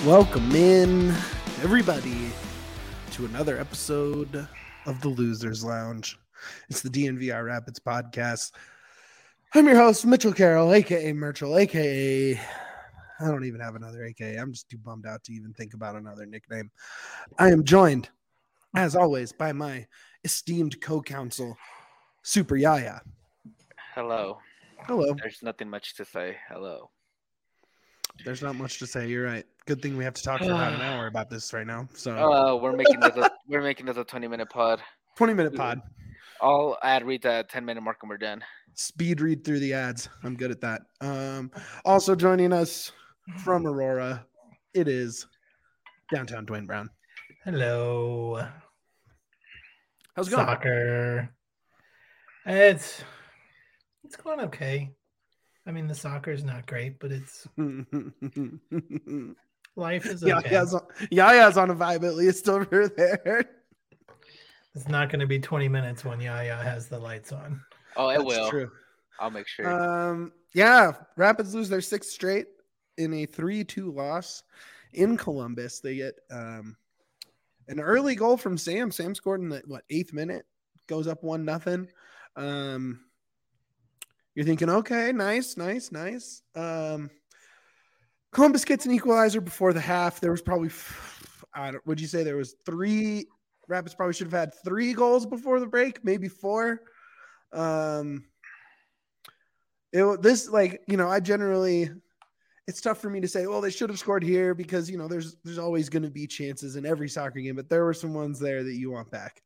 Welcome in, everybody, to another episode of the Losers Lounge. It's the DNVR Rapids podcast. I'm your host, Mitchell Carroll, a.k.a. Merchel, a.k.a. I don't even have another a.k.a. I'm just too bummed out to even think about another nickname. I am joined, as always, by my esteemed co-counsel, Super Yaya. Hello. Hello. There's nothing much to say. Hello. There's not much to say. You're right. Good thing we have to talk for about an hour about this right now. So we're making this a 20-minute pod. 20-minute pod. I'll read the 10-minute mark and we're done. Speed read through the ads. I'm good at that. Also joining us from Aurora, it is downtown Dwayne Brown. Hello. How's it going? Soccer. It's going okay. I mean, the soccer is not great, but it's life is okay. Yaya's on a vibe at least over there. It's not going to be 20 minutes when Yaya has the lights on. Oh, it That's will. True. I'll make sure. Rapids lose their sixth straight in a 3-2 loss in Columbus. They get an early goal from Sam. Sam scored in the 8th minute, goes up 1-0. You're thinking, okay, nice. Columbus gets an equalizer before the half. There was probably, would you say there was 3? Rapids probably should have had 3 goals before the break, maybe 4. I generally, it's tough for me to say, well, they should have scored here because, there's always going to be chances in every soccer game, but there were some ones there that you want back.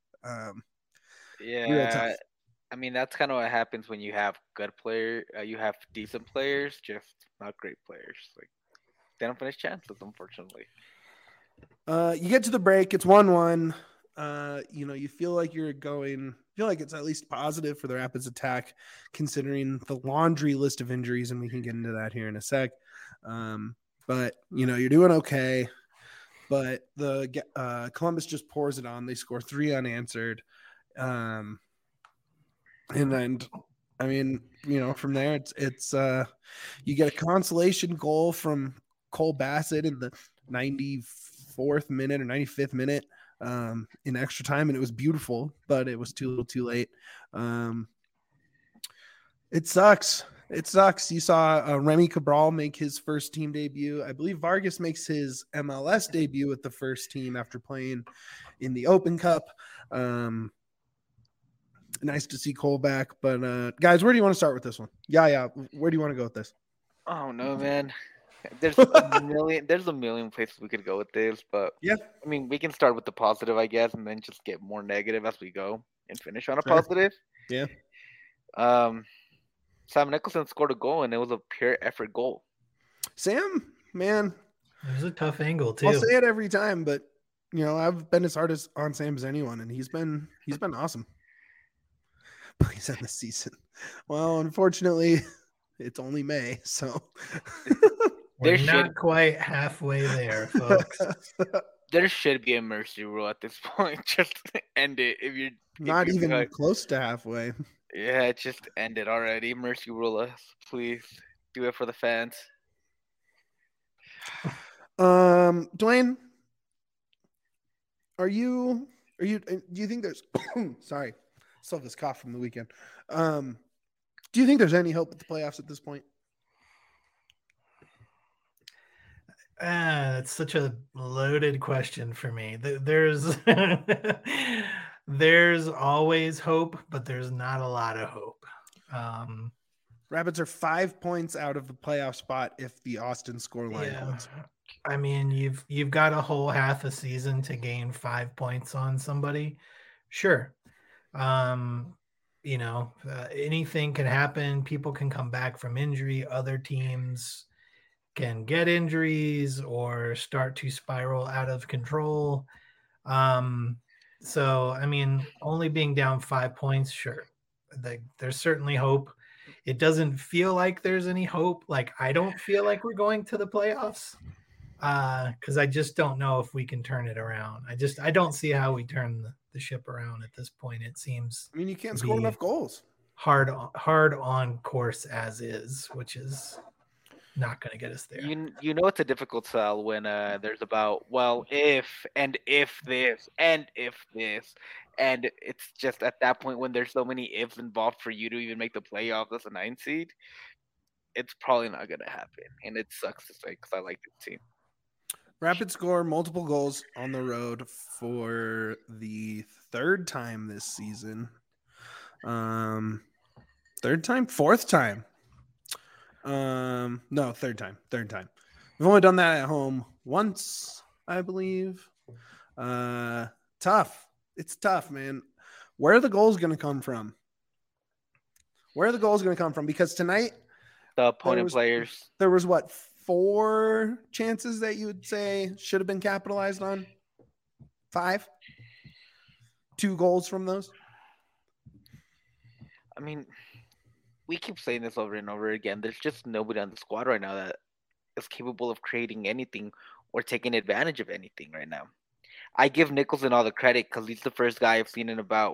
Yeah. I mean, that's kind of what happens when you have good players. You have decent players, just not great players. Like, they don't finish chances, unfortunately. You get to the break. It's 1-1. You feel like it's at least positive for the Rapids attack, considering the laundry list of injuries, and we can get into that here in a sec. But you're doing okay. But the Columbus just pours it on. They score 3 unanswered. And then, from there, it's you get a consolation goal from Cole Bassett in the 94th minute or 95th minute in extra time, and it was beautiful, but it was too late. It sucks. You saw Remy Cabral make his first team debut. I believe Vargas makes his MLS debut with the first team after playing in the Open Cup. Nice to see Cole back, but guys, where do you want to start with this one? Yeah. Where do you want to go with this? Oh no, man. There's a million places we could go with this, but yeah, I mean, we can start with the positive, I guess, and then just get more negative as we go and finish on a positive. Yeah. Sam Nicholson scored a goal, and it was a pure effort goal. Sam, man, it was a tough angle too. I'll say it every time, but I've been as hard on Sam as anyone, and he's been awesome. Plays in the season. Well, unfortunately, it's only May, so we're not quite halfway there, folks. There should be a mercy rule at this point. Just end it if you're not even close to halfway. Yeah, just end it already. Mercy rule us, please. Do it for the fans. Dwayne, do you think there's sorry. Still have this cough from the weekend. Do you think there's any hope at the playoffs at this point? That's such a loaded question for me. There's there's always hope, but there's not a lot of hope. Rapids are 5 points out of the playoff spot if the Austin scoreline holds. I mean, you've got a whole half a season to gain 5 points on somebody. Sure. Anything can happen. People can come back from injury. Other teams can get injuries or start to spiral out of control. So, I mean, only being down 5 points, sure. There's certainly hope. It doesn't feel like there's any hope. Like, I don't feel like we're going to the playoffs. Because I just don't know if we can turn it around. I don't see how we turn the ship around at this point. It seems. I mean, you can't score enough goals. Hard on course as is, which is not going to get us there. You know it's a difficult sell when there's about if this and if this, and it's just at that point when there's so many ifs involved for you to even make the playoffs as a 9 seed, it's probably not gonna happen, and it sucks to say because I like this team. Rapid score multiple goals on the road for the third time this season. Third time, fourth time. No, third time. We've only done that at home once, I believe. Tough. It's tough, man. Where are the goals going to come from? Because tonight, the opponent players. There was what, 4 chances that you would say should have been capitalized on? 5? 2 goals from those? I mean, we keep saying this over and over again. There's just nobody on the squad right now that is capable of creating anything or taking advantage of anything right now. I give Nicholson all the credit because he's the first guy I've seen in about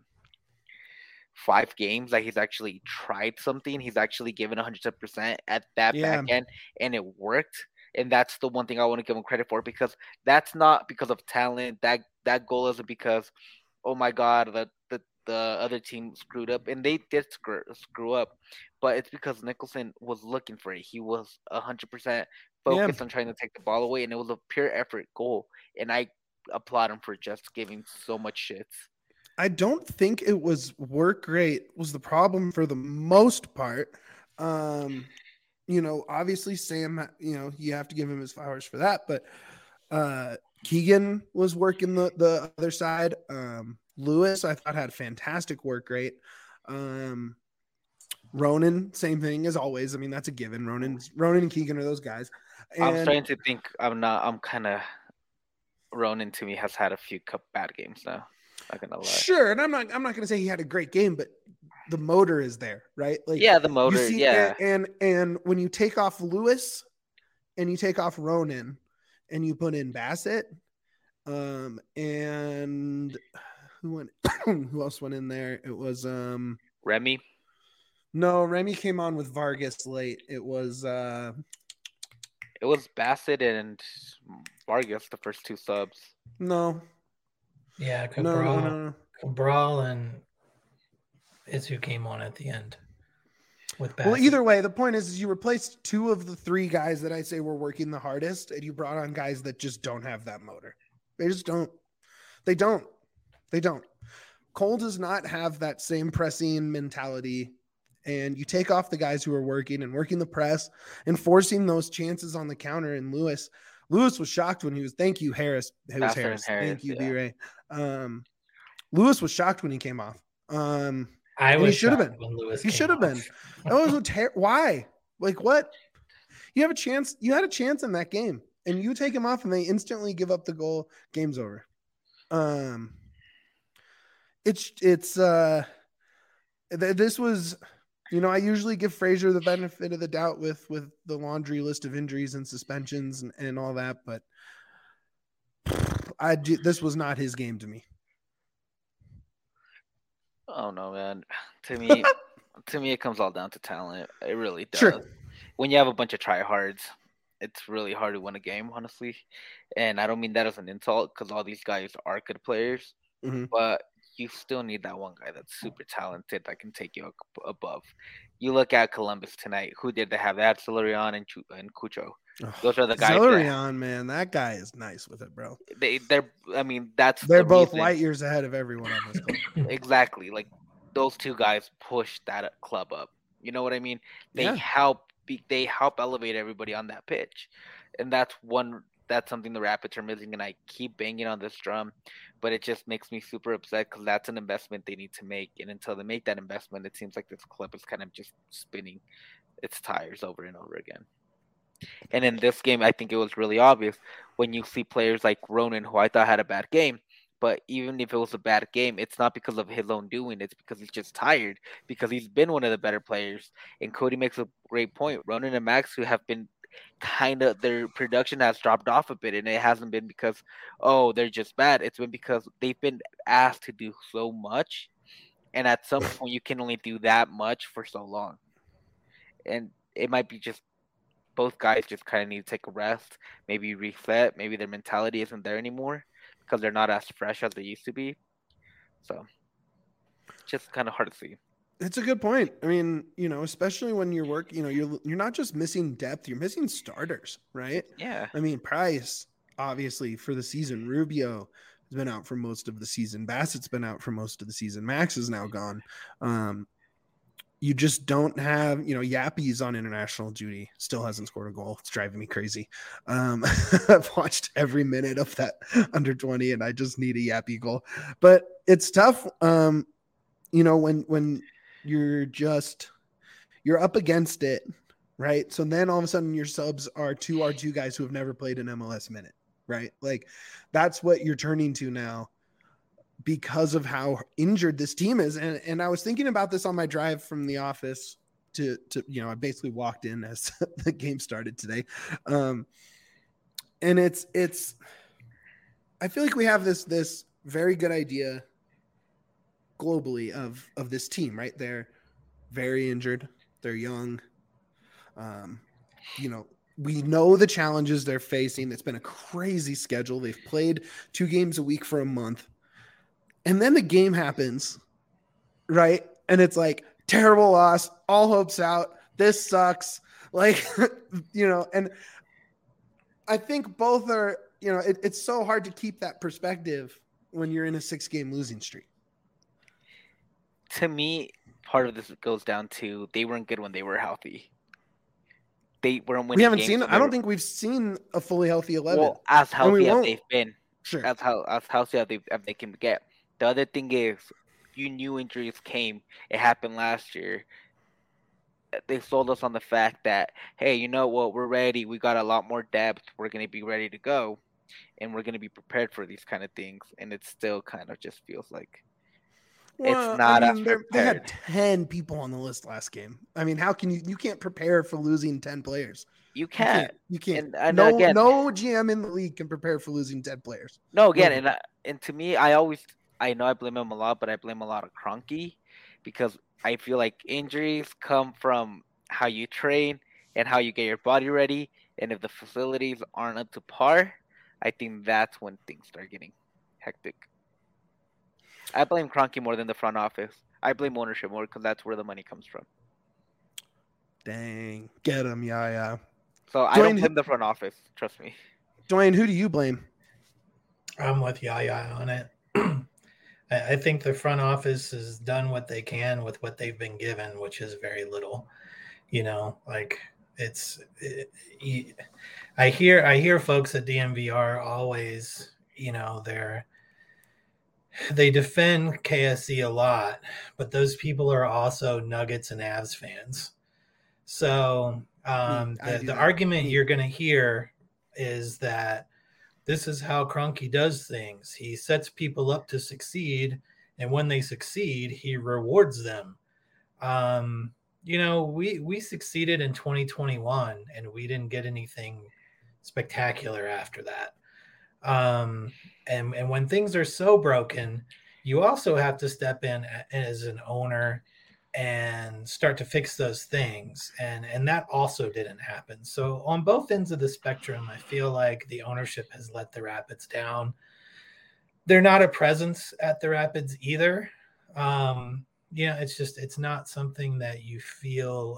5 games that he's actually tried something. He's actually given 100% at that back end, and it worked. And that's the one thing I want to give him credit for, because that's not because of talent. That goal isn't because, oh my God, the other team screwed up, and they did screw up, but it's because Nicholson was looking for it. He was 100% focused on trying to take the ball away, and it was a pure effort goal. And I applaud him for just giving so much shits. I don't think it was work rate was the problem for the most part. Obviously Sam, you have to give him his flowers for that, but Keegan was working the other side. Lewis, I thought, had fantastic work rate. Ronan, same thing as always. I mean, that's a given. Ronan and Keegan are those guys. And I'm starting to think I'm kind of Ronan to me has had a few bad games now. Not gonna lie. Sure, and I'm not gonna say he had a great game, but the motor is there, right? Like, the motor, And when you take off Lewis and you take off Ronan and you put in Bassett, and who else went in there? It was Remy. No, Remy came on with Vargas late. It was Bassett and Vargas, the first 2 subs. No. Yeah, Cabral, no. Cabral and is who came on at the end with Bassett. Well, either way, the point is you replaced 2 of the 3 guys that I say were working the hardest, and you brought on guys that just don't have that motor. They just don't. They don't. Cole does not have that same pressing mentality, and you take off the guys who are working the press and forcing those chances on the counter. And Lewis was shocked when he was. Thank you, Harris. It was Harris. Thank you, B-Ray. Lewis was shocked when he came off. He should have been. He should have been. Why? Like, what? You have a chance. You had a chance in that game, and you take him off, and they instantly give up the goal. Game's over. This was, I usually give Frazier the benefit of the doubt with the laundry list of injuries and suspensions and all that, but this was not his game to me. Oh no, man. To me, it comes all down to talent. It really does. Sure. When you have a bunch of tryhards, it's really hard to win a game, honestly. And I don't mean that as an insult, because all these guys are good players, but you still need that one guy that's super talented that can take you above. You look at Columbus tonight. Who did they have? They had Celerion and Cucho. Those are the guys. Celerion, man, that guy is nice with it, bro. They're both light years ahead of everyone on this club. Exactly. Like, those 2 guys push that club up. You know what I mean? They help elevate everybody on that pitch. And that's something the Rapids are missing, and I keep banging on this drum, but it just makes me super upset because that's an investment they need to make, and until they make that investment, it seems like this club is kind of just spinning its tires over and over again. And in this game, I think it was really obvious when you see players like Ronan, who I thought had a bad game, but even if it was a bad game, it's not because of his own doing, it's because he's just tired, because he's been one of the better players. And Cody makes a great point. Ronan and Max, who have been their production has dropped off a bit, and it hasn't been because they're just bad. It's been because they've been asked to do so much, and at some point you can only do that much for so long, and it might be just both guys just kind of need to take a rest, maybe reset, maybe their mentality isn't there anymore because they're not as fresh as they used to be. So, just kind of hard to see. It's a good point. I mean, especially when you're working, you're not just missing depth, you're missing starters, right? Yeah. I mean, Price, obviously, for the season. Rubio has been out for most of the season. Bassett's been out for most of the season. Max is now gone. You just don't have, Yappy's on international duty. Still hasn't scored a goal. It's driving me crazy. I've watched every minute of that under 20, and I just need a Yappy goal. But it's tough. When you're up against it, right? So then all of a sudden your subs are two R2 guys who have never played an MLS minute, right? Like that's what you're turning to now because of how injured this team is. And I was thinking about this on my drive from the office to I basically walked in as the game started today. And it's I feel like we have this very good idea globally of this team, right? They're very injured. They're young. We know the challenges they're facing. It's been a crazy schedule. They've played 2 games a week for a month. And then the game happens, right? And it's like terrible loss, all hopes out. This sucks. Like, and I think both are, it's so hard to keep that perspective when you're in a 6-game losing streak. To me, part of this goes down to they weren't good when they were healthy. They weren't winning. We haven't seen. I don't think we've seen a fully healthy 11. Well, as healthy as they've been, sure, as healthy as they can get. The other thing is, you knew injuries came. It happened last year. They sold us on the fact that, hey, you know what? We're ready. We got a lot more depth. We're going to be ready to go, and we're going to be prepared for these kind of things. And it still kind of just feels like. It's not as prepared. They had 10 people on the list last game. I mean, how can you can't prepare for losing 10 players? You can't. You can't. And no GM in the league can prepare for losing 10 players. No, again, and to me, I know I blame him a lot, but I blame a lot of Kroenke because I feel like injuries come from how you train and how you get your body ready. And if the facilities aren't up to par, I think that's when things start getting hectic. I blame Kroenke more than the front office. I blame ownership more because that's where the money comes from. Dang. Get him, yeah. So I don't blame the front office. Trust me. Dwayne, who do you blame? I'm with Yaya on it. I think the front office has done what they can with what they've been given, which is very little. I hear folks at DNVR always, they defend KSE a lot, but those people are also Nuggets and Avs fans. So the argument you're going to hear is that this is how Kroenke does things. He sets people up to succeed, and when they succeed, he rewards them. We succeeded in 2021, and we didn't get anything spectacular after that. And when things are so broken, you also have to step in as an owner and start to fix those things. And that also didn't happen. So on both ends of the spectrum, I feel like the ownership has let the Rapids down. They're not a presence at the Rapids either. It's not something that you feel,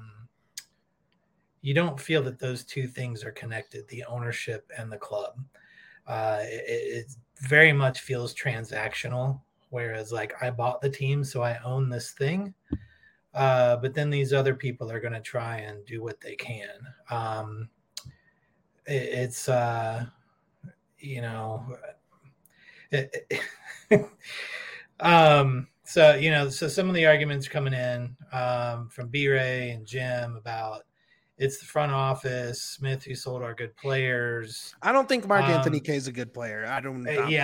you don't feel that those two things are connected, the ownership and the club. It very much feels transactional, whereas like I bought the team, so I own this thing. But then these other people are going to try and do what they can. So some of the arguments coming in from B-Ray and Jim about it's the front office, Smith, who sold our good players. I don't think Mark Anthony K is a good player. I've been very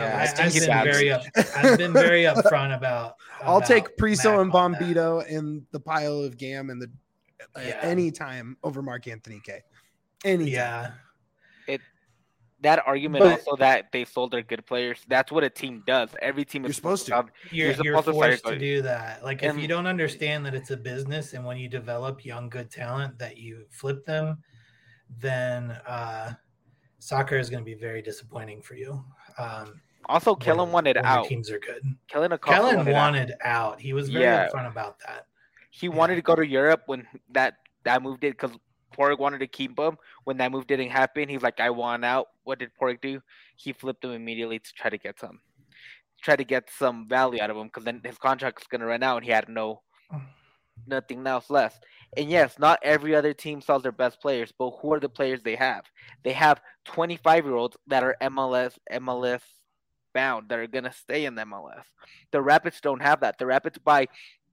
upfront about. I'll take Priso and Bombito in the pile of Gam and any time over Mark Anthony K. Anytime. Yeah. that argument also that they sold their good players. That's what a team does. Every team is supposed to. You're forced to do that. Like if you don't understand that it's a business, and when you develop young good talent that you flip them, then soccer is going to be very disappointing for you. Also, Kellen wanted out. Teams are good. Kellen wanted out. He was very upfront about that. He wanted to go to Europe when that move did, because Porrick wanted to keep him. When that move didn't happen, he's like, I want out. What did Porrick do? He flipped him immediately to try to get some value out of him, because then his contract was going to run out and he had nothing else left. And yes, not every other team sells their best players, but who are the players they have? They have 25-year-olds that are MLS bound, that are going to stay in the MLS. The Rapids don't have that. The Rapids buy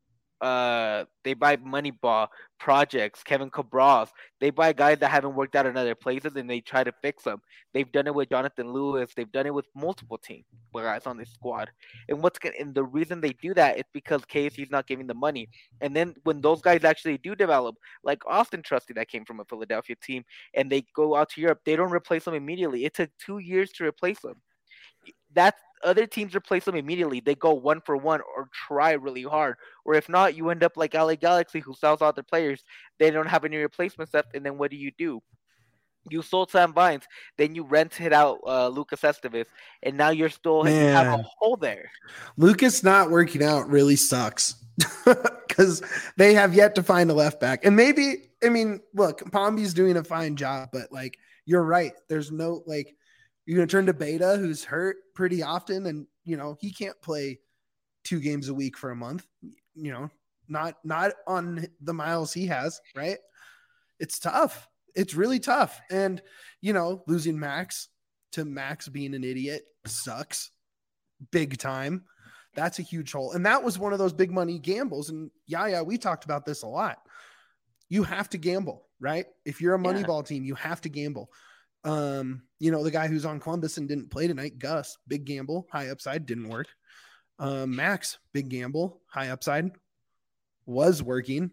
Moneyball, projects, Kevin Cabral. They buy guys that haven't worked out in other places and they try to fix them. They've done it with Jonathan Lewis. They've done it with multiple teams, guys on this squad. And the reason they do that is because KFC's not giving the money. And then when those guys actually do develop, like Austin Trusty that came from a Philadelphia team, and they go out to Europe, they don't replace them immediately. It took 2 years to replace them. Other teams replace them immediately. They go 1 for 1 or try really hard. Or if not, you end up like LA Galaxy, who sells out their players. They don't have any replacements left. And then what do? You sold Sam Vines. Then you rented out Lucas Esteves. And now you have a hole there. Lucas not working out really sucks. Because they have yet to find a left back. And maybe, look, Pomby's doing a fine job. But, you're right. There's no, you're going to turn to Beta, who's hurt pretty often, and, he can't play 2 games a week for a month, not on the miles he has, right? It's tough. It's really tough. And, losing Max to Max being an idiot sucks big time. That's a huge hole. And that was one of those big money gambles. And we talked about this a lot. You have to gamble, right? If you're a Moneyball team, you have to gamble. The guy who's on Columbus and didn't play tonight, Gus, big gamble, high upside, didn't work. Max, big gamble, high upside, was working.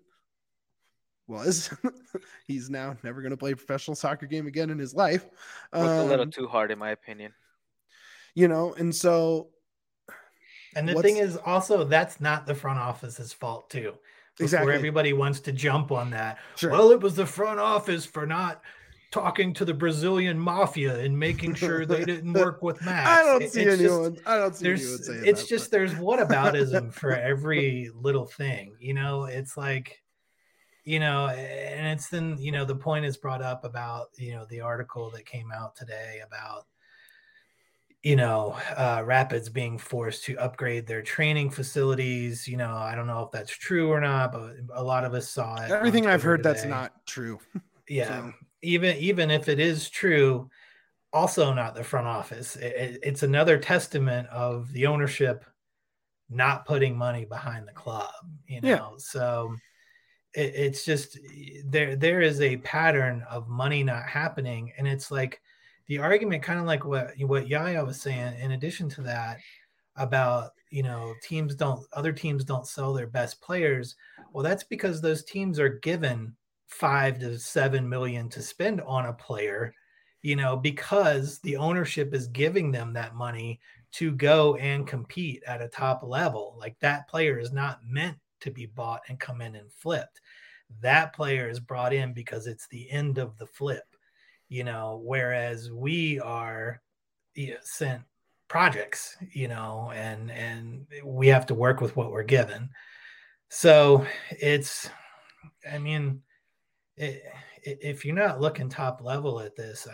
He's now never going to play a professional soccer game again in his life. A little too hard, in my opinion. And so. And the thing is also, that's not the front office's fault too. Exactly. Where everybody wants to jump on that. Sure. Well, it was the front office for not talking to the Brazilian mafia and making sure they didn't work with Max. I don't see anyone saying it's just there's whataboutism for every little thing. It's like, and it's then, the point is brought up about, the article that came out today about, Rapids being forced to upgrade their training facilities. I don't know if that's true or not, but a lot of us saw it. Everything I've heard, that's not true. Yeah. So. Even if it is true, also not the front office. It's another testament of the ownership not putting money behind the club, So it's just there is a pattern of money not happening. And it's like the argument, kind of like what Yaya was saying, in addition to that, about, other teams don't sell their best players. Well, that's because those teams are given $5 to $7 million to spend on a player, because the ownership is giving them that money to go and compete at a top level. Like, that player is not meant to be bought and come in and flipped. That player is brought in because it's the end of the flip, whereas we are sent projects, and we have to work with what we're given. So it's, if you're not looking top level at this,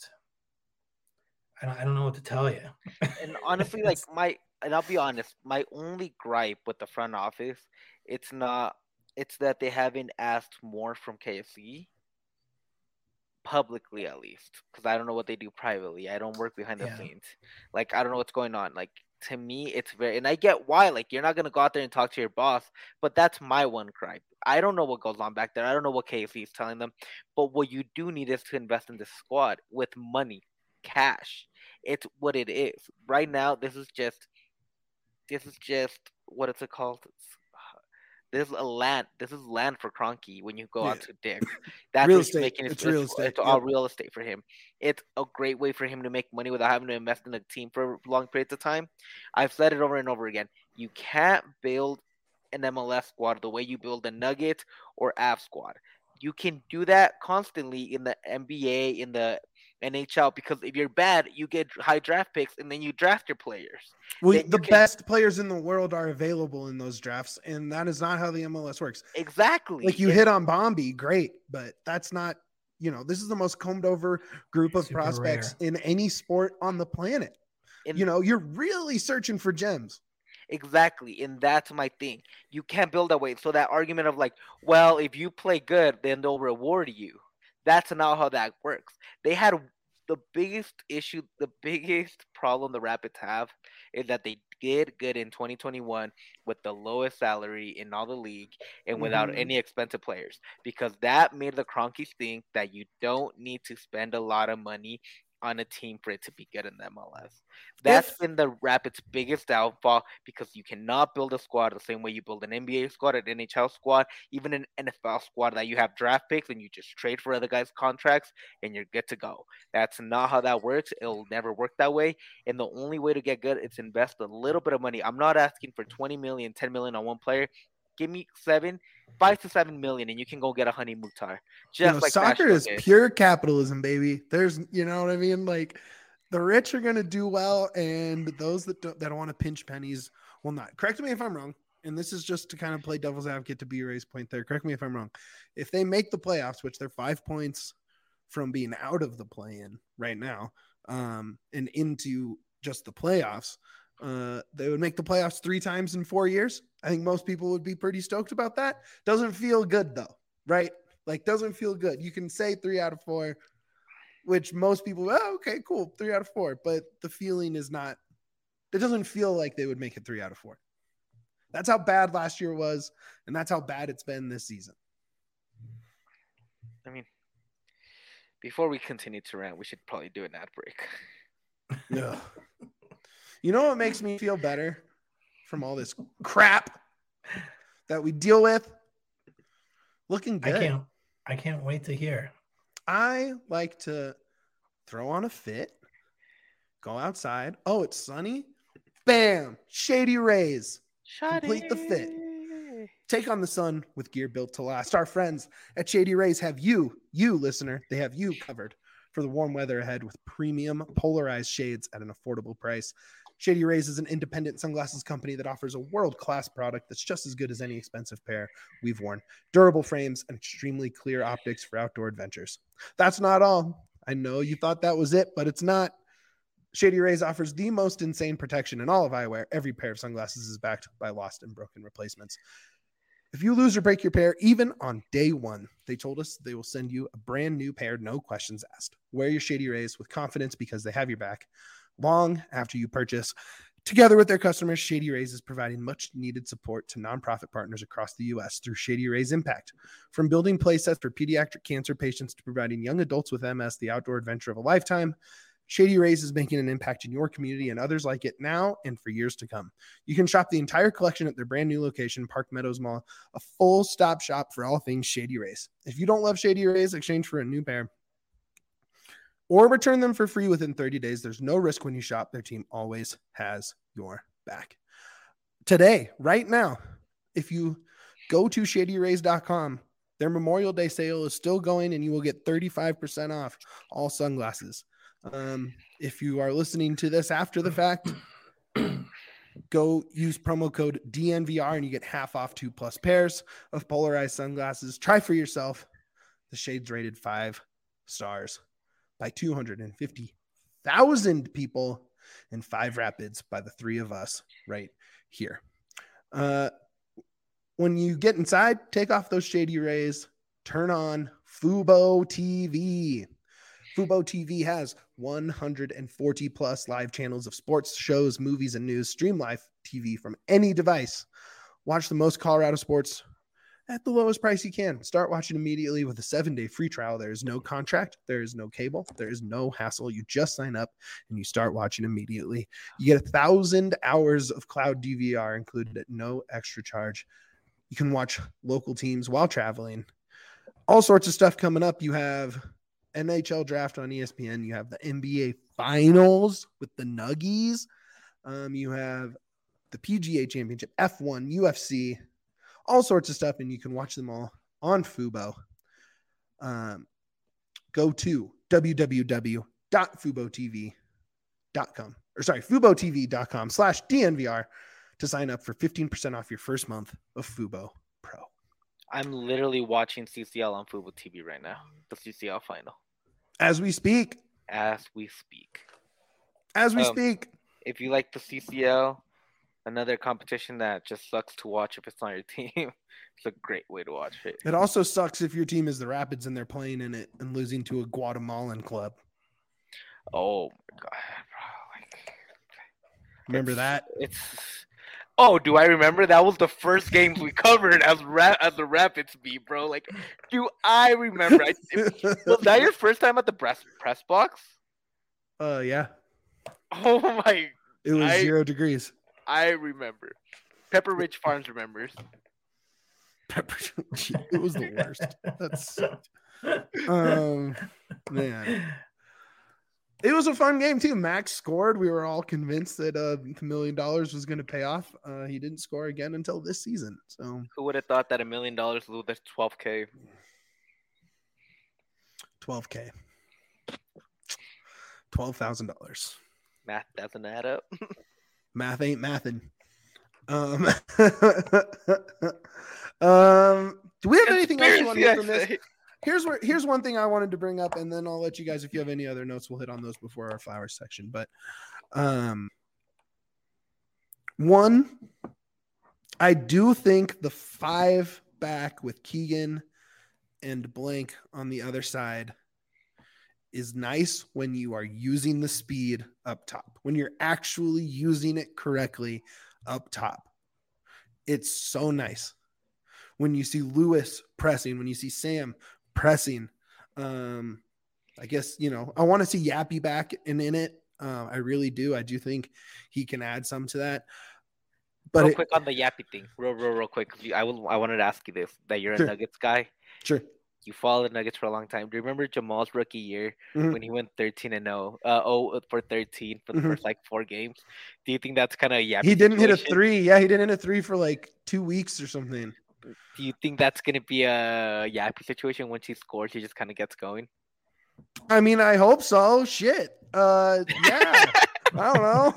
I don't know what to tell you. And honestly, and I'll be honest, my only gripe with the front office, it's that they haven't asked more from KFC, publicly at least, because I don't know what they do privately. I don't work behind the scenes. I don't know what's going on. To me, it's very, and I get why, you're not going to go out there and talk to your boss, but that's my one gripe. I don't know what goes on back there. I don't know what KFC is telling them, but what you do need is to invest in the squad with money, cash. It's what it is. Right now, this is just, what is it called? This is land for Kroenke when you go out to Dick. That's real estate. It's real estate. It's all real estate for him. It's a great way for him to make money without having to invest in a team for long periods of time. I've said it over and over again. You can't build an MLS squad the way you build a Nuggets or Avs squad. You can do that constantly in the NBA, in the NHL, because if you're bad, you get high draft picks and then you draft your players. Well, the best players in the world are available in those drafts, and that is not how the MLS works. Exactly. Like you hit on Bombi, great, but that's not, this is the most combed over group of prospects in any sport on the planet. You're really searching for gems. Exactly, and that's my thing. You can't build that way. So that argument of like, well, if you play good, then they'll reward you. That's not how that works. They had the biggest issue, the biggest problem the Rapids have is that they did good in 2021 with the lowest salary in all the league and without any expensive players, because that made the Kroenkes think that you don't need to spend a lot of money on a team for it to be good in the MLS. That's been the Rapids' biggest downfall, because you cannot build a squad the same way you build an NBA squad, an NHL squad, even an NFL squad that you have draft picks and you just trade for other guys' contracts and you're good to go. That's not how that works. It'll never work that way. And the only way to get good is invest a little bit of money. I'm not asking for 20 million, 10 million on one player. Give me 5 to 7 million, and you can go get a Honey Mukhtar. Just like soccer is pure capitalism, baby. There's, what I mean? Like, the rich are going to do well, and those that don't want to pinch pennies will not. Correct me if I'm wrong, and this is just to kind of play devil's advocate to B-Ray's point there. Correct me if I'm wrong. If they make the playoffs, which they're 5 points from being out of the play-in right now, and into just the playoffs, they would make the playoffs 3 times in 4 years. I think most people would be pretty stoked about that. Doesn't feel good though, right? Like, doesn't feel good. You can say 3 out of 4, which most people, okay, cool, 3 out of 4. But the feeling is not, it doesn't feel like they would make it 3 out of 4. That's how bad last year was, and that's how bad it's been this season. I mean, before we continue to rant, we should probably do an ad break. Yeah. You know what makes me feel better from all this crap that we deal with? Looking good. I can't wait to hear. I like to throw on a fit, go outside. Oh, it's sunny. Bam! Shady Rays. Complete the fit. Take on the sun with gear built to last. Our friends at Shady Rays have you listener, they have you covered for the warm weather ahead with premium polarized shades at an affordable price. Shady Rays is an independent sunglasses company that offers a world-class product that's just as good as any expensive pair we've worn. Durable frames and extremely clear optics for outdoor adventures. That's not all. I know you thought that was it, but it's not. Shady Rays offers the most insane protection in all of eyewear. Every pair of sunglasses is backed by lost and broken replacements. If you lose or break your pair, even on day one, they told us they will send you a brand new pair, no questions asked. Wear your Shady Rays with confidence because they have your back long after you purchase. Together with their customers, Shady Rays is providing much needed support to nonprofit partners across the U.S. through Shady Rays Impact. From building playsets for pediatric cancer patients to providing young adults with MS the outdoor adventure of a lifetime, Shady Rays is making an impact in your community and others like it now and for years to come. You can shop the entire collection at their brand new location, Park Meadows Mall, a full stop shop for all things Shady Rays. If you don't love Shady Rays, exchange for a new pair or return them for free within 30 days. There's no risk when you shop. Their team always has your back. Today, right now, if you go to shadyrays.com, their Memorial Day sale is still going and you will get 35% off all sunglasses. If you are listening to this after the fact, go use promo code DNVR and you get half off 2+ pairs of polarized sunglasses. Try for yourself. The shades rated 5 stars by 250,000 people in 5 Rapids by the 3 of us right here. When you get inside, take off those Shady Rays, turn on Fubo TV. Fubo TV has 140 plus live channels of sports, shows, movies, and news. Stream live TV from any device. Watch the most Colorado sports at the lowest price you can. Start watching immediately with a 7-day free trial. There is no contract. There is no cable. There is no hassle. You just sign up and you start watching immediately. You get 1,000 hours of cloud DVR included at no extra charge. You can watch local teams while traveling. All sorts of stuff coming up. You have NHL draft on ESPN. You have the NBA finals with the Nuggies. You have the PGA Championship, F1, UFC, all sorts of stuff, and you can watch them all on Fubo. Go to FuboTV.com/DNVR to sign up for 15% off your first month of Fubo Pro. I'm literally watching CCL on Fubo TV right now. The CCL final. As we speak. As we speak. If you like the CCL, another competition that just sucks to watch if it's on your team, it's a great way to watch it. It also sucks if your team is the Rapids and they're playing in it and losing to a Guatemalan club. Oh my god, bro! Remember that? Oh, do I remember? That was the first games we covered as the Rapids beat, bro. Like, do I remember? Was that your first time at the press box? Yeah. Oh my! It was 0 degrees. I remember. Pepper Ridge Farms remembers. It was the worst. That sucked. Man. It was a fun game too. Max scored. We were all convinced that $1 million was going to pay off. He didn't score again until this season. So who would have thought that $1 million was worth $12K? $12K. $12,000. Math doesn't add up. Math ain't mathin'. Do we have anything else you want to hear from this? Here's one thing I wanted to bring up, and then I'll let you guys, if you have any other notes, we'll hit on those before our flowers section. But one, I do think the 5 back with Keegan and Blank on the other side is nice when you are using the speed up top, when you're actually using it correctly up top. It's so nice when you see Lewis pressing, when you see Sam pressing. I guess, I want to see Yappy back and in it. I really do. I do think he can add some to that. But quick on the Yappy thing, real quick. I wanted to ask you this, that you're a Nuggets guy. Sure. You followed the Nuggets for a long time. Do you remember Jamal's rookie year when he went 13-0, 0 for 13 for the first 4 games? Do you think that's kind of a Yappy He didn't situation? hit a 3. Yeah, he didn't hit a 3 for 2 weeks or something. Do you think that's going to be a Yappy situation? Once he scores, he just kind of gets going? I mean, I hope so. Shit. Yeah. I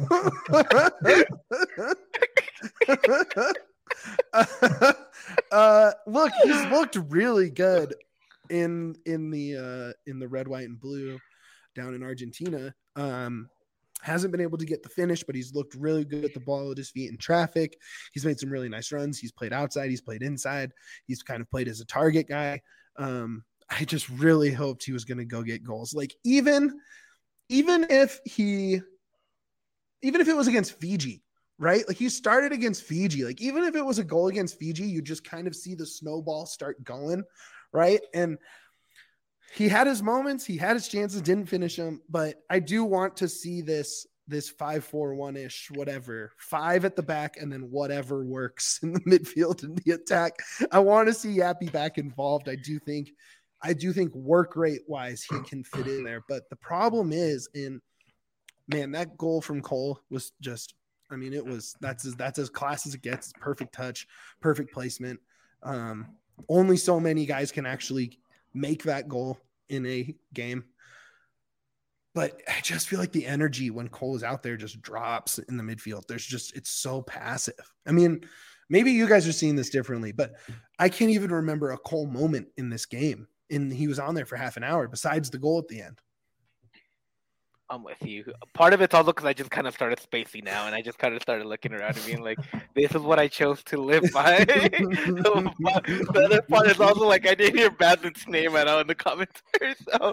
don't know. Look, he's looked really good in the red, white, and blue down in Argentina. Hasn't been able to get the finish, but he's looked really good at the ball at his feet in traffic. He's made some really nice runs. He's played outside. He's played inside. He's kind of played as a target guy. I just really hoped he was going to go get goals. Even if it was against Fiji, right? He started against Fiji. Even if it was a goal against Fiji, you just kind of see the snowball start going, right? And he had his moments, he had his chances, didn't finish them, but I do want to see this 5-4-1-ish, whatever, 5 at the back, and then whatever works in the midfield and the attack. I want to see Yappy back involved. I do think work rate wise he can fit in there, but the problem is, that goal from Cole was just, that's as class as it gets. Perfect touch, perfect placement. Only so many guys can actually make that goal in a game. But I just feel like the energy when Cole is out there just drops in the midfield. It's so passive. Maybe you guys are seeing this differently, but I can't even remember a Cole moment in this game. And he was on there for half an hour besides the goal at the end. I'm with you. Part of it's also because I just kind of started spacing now, and I just kind of started looking around and being like, this is what I chose to live by. The other part is also I didn't hear Badman's name at all in the commentary. So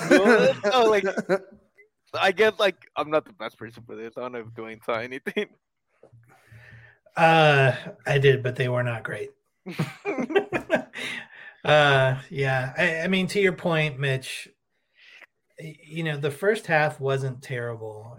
I guess I'm not the best person for this. I don't know if Dwayne saw anything. I did, but they were not great. Yeah. To your point, Mitch, the first half wasn't terrible,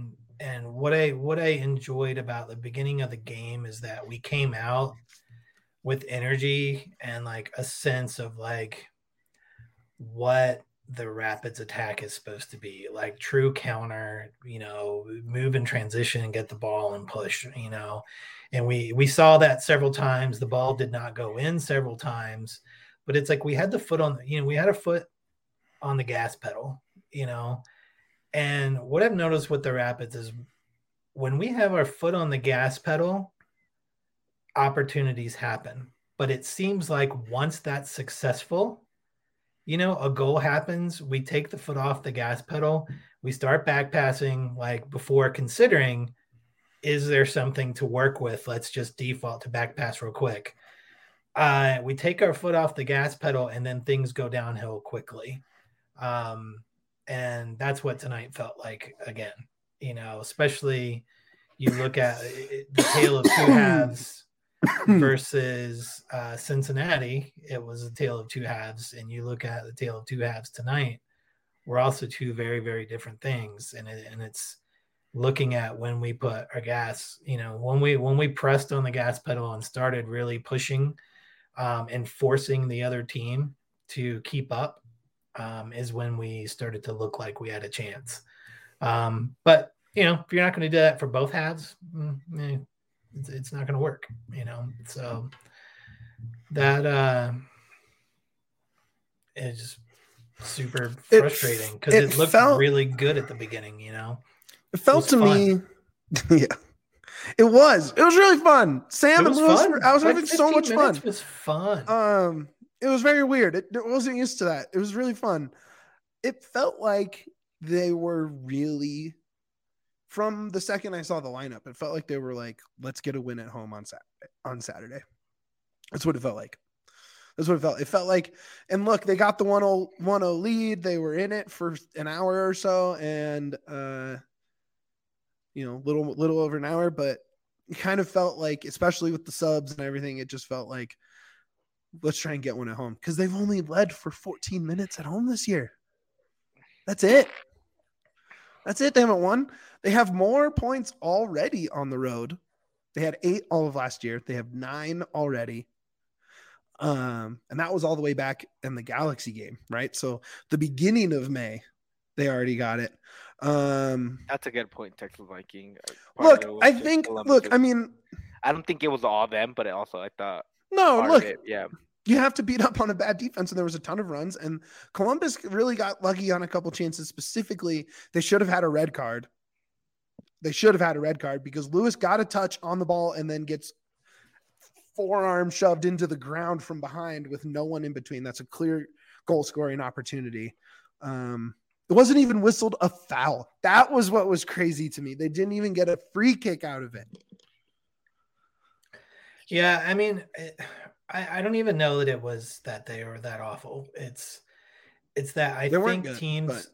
and what I enjoyed about the beginning of the game is that we came out with energy and like a sense of like what the Rapids attack is supposed to be, like true counter, move in transition and get the ball and push, and we saw that several times. The ball did not go in several times, but it's like we had the foot on, we had a foot on the gas pedal, and what I've noticed with the Rapids is when we have our foot on the gas pedal, opportunities happen. But it seems like once that's successful, a goal happens, we take the foot off the gas pedal, we start back passing, like before considering, is there something to work with? Let's just default to back pass real quick. We take our foot off the gas pedal and then things go downhill quickly. And that's what tonight felt like again, especially you look at the tale of two halves versus Cincinnati. It was a tale of two halves, and you look at the tale of two halves tonight, we're also two very, very different things. And it's looking at when we put our gas, when we pressed on the gas pedal and started really pushing and forcing the other team to keep up, is when we started to look like we had a chance. But if you're not going to do that for both halves, it's not going to work, so that is super frustrating because it looked really good at the beginning. It felt to me, yeah, it was really fun. Sam and Lewis, I was having so much fun. It was fun. It was very weird. It wasn't used to that. It was really fun. It felt like they were really, from the second I saw the lineup, it felt like they were like, let's get a win at home on Saturday. That's what it felt like. It felt like, and look, they got the 1-0 lead. They were in it for an hour or so, and little over an hour, but it kind of felt like, especially with the subs and everything, it just felt like, let's try and get one at home, because they've only led for 14 minutes at home this year. That's it. They haven't won. They have more points already on the road. They had 8 all of last year. They have 9 already. And that was all the way back in the Galaxy game, right? So the beginning of May, they already got it. That's a good point, Texas Viking. I don't think it was all them, but I thought. No, look, you have to beat up on a bad defense, and there was a ton of runs, and Columbus really got lucky on a couple chances. Specifically, they should have had a red card. Because Lewis got a touch on the ball and then gets forearm shoved into the ground from behind with no one in between. That's a clear goal scoring opportunity. It wasn't even whistled a foul. That was what was crazy to me. They didn't even get a free kick out of it. Yeah, I mean, I don't even know that it was that they were that awful. It's that I think good, teams,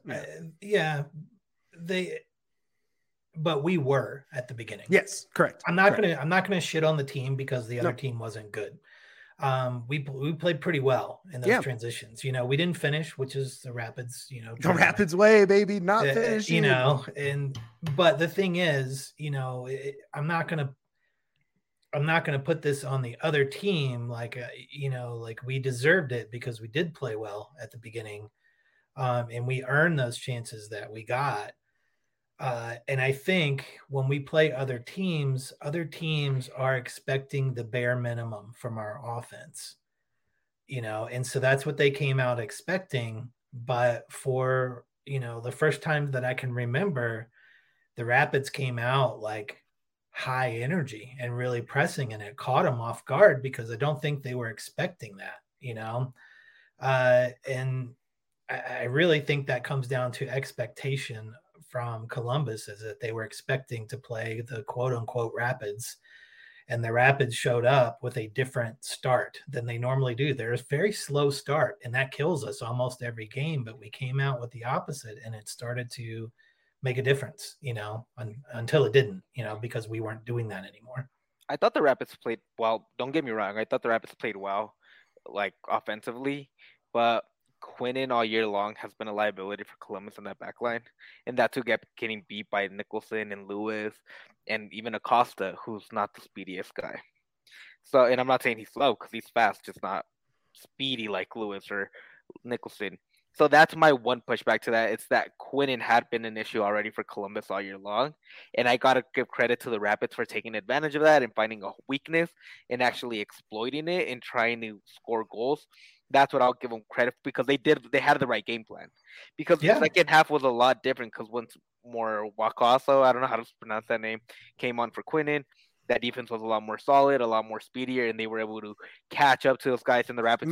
but we were at the beginning. Yes, correct. I'm not gonna shit on the team because the other team wasn't good. We played pretty well in those transitions. We didn't finish, which is the Rapids. The Rapids way, baby, not finish. But the thing is, I'm not gonna put this on the other team. Like we deserved it because we did play well at the beginning, and we earned those chances that we got. And I think when we play other teams are expecting the bare minimum from our offense, and so that's what they came out expecting. But for, the first time that I can remember, the Rapids came out like high energy and really pressing, and it caught them off guard because I don't think they were expecting that, and I really think that comes down to expectation from Columbus, is that they were expecting to play the quote unquote Rapids, and the Rapids showed up with a different start than they normally do. There's a very slow start, and that kills us almost every game, but we came out with the opposite, and it started to make a difference, until it didn't, because we weren't doing that anymore. I thought the Rapids played well. Don't get me wrong. I thought the Rapids played well, like offensively, but Quinnen all year long has been a liability for Columbus on that back line, and that's who kept getting beat by Nicholson and Lewis and even Acosta, who's not the speediest guy. So, and I'm not saying he's slow because he's fast, just not speedy like Lewis or Nicholson. So that's my one pushback to that. It's that Quinnen had been an issue already for Columbus all year long. And I got to give credit to the Rapids for taking advantage of that and finding a weakness and actually exploiting it and trying to score goals. That's what I'll give them credit because they had the right game plan. Because the second half was a lot different because once more Wakaso, I don't know how to pronounce that name, came on for Quinnen. That defense was a lot more solid, a lot more speedier, and they were able to catch up to those guys in the Rapids.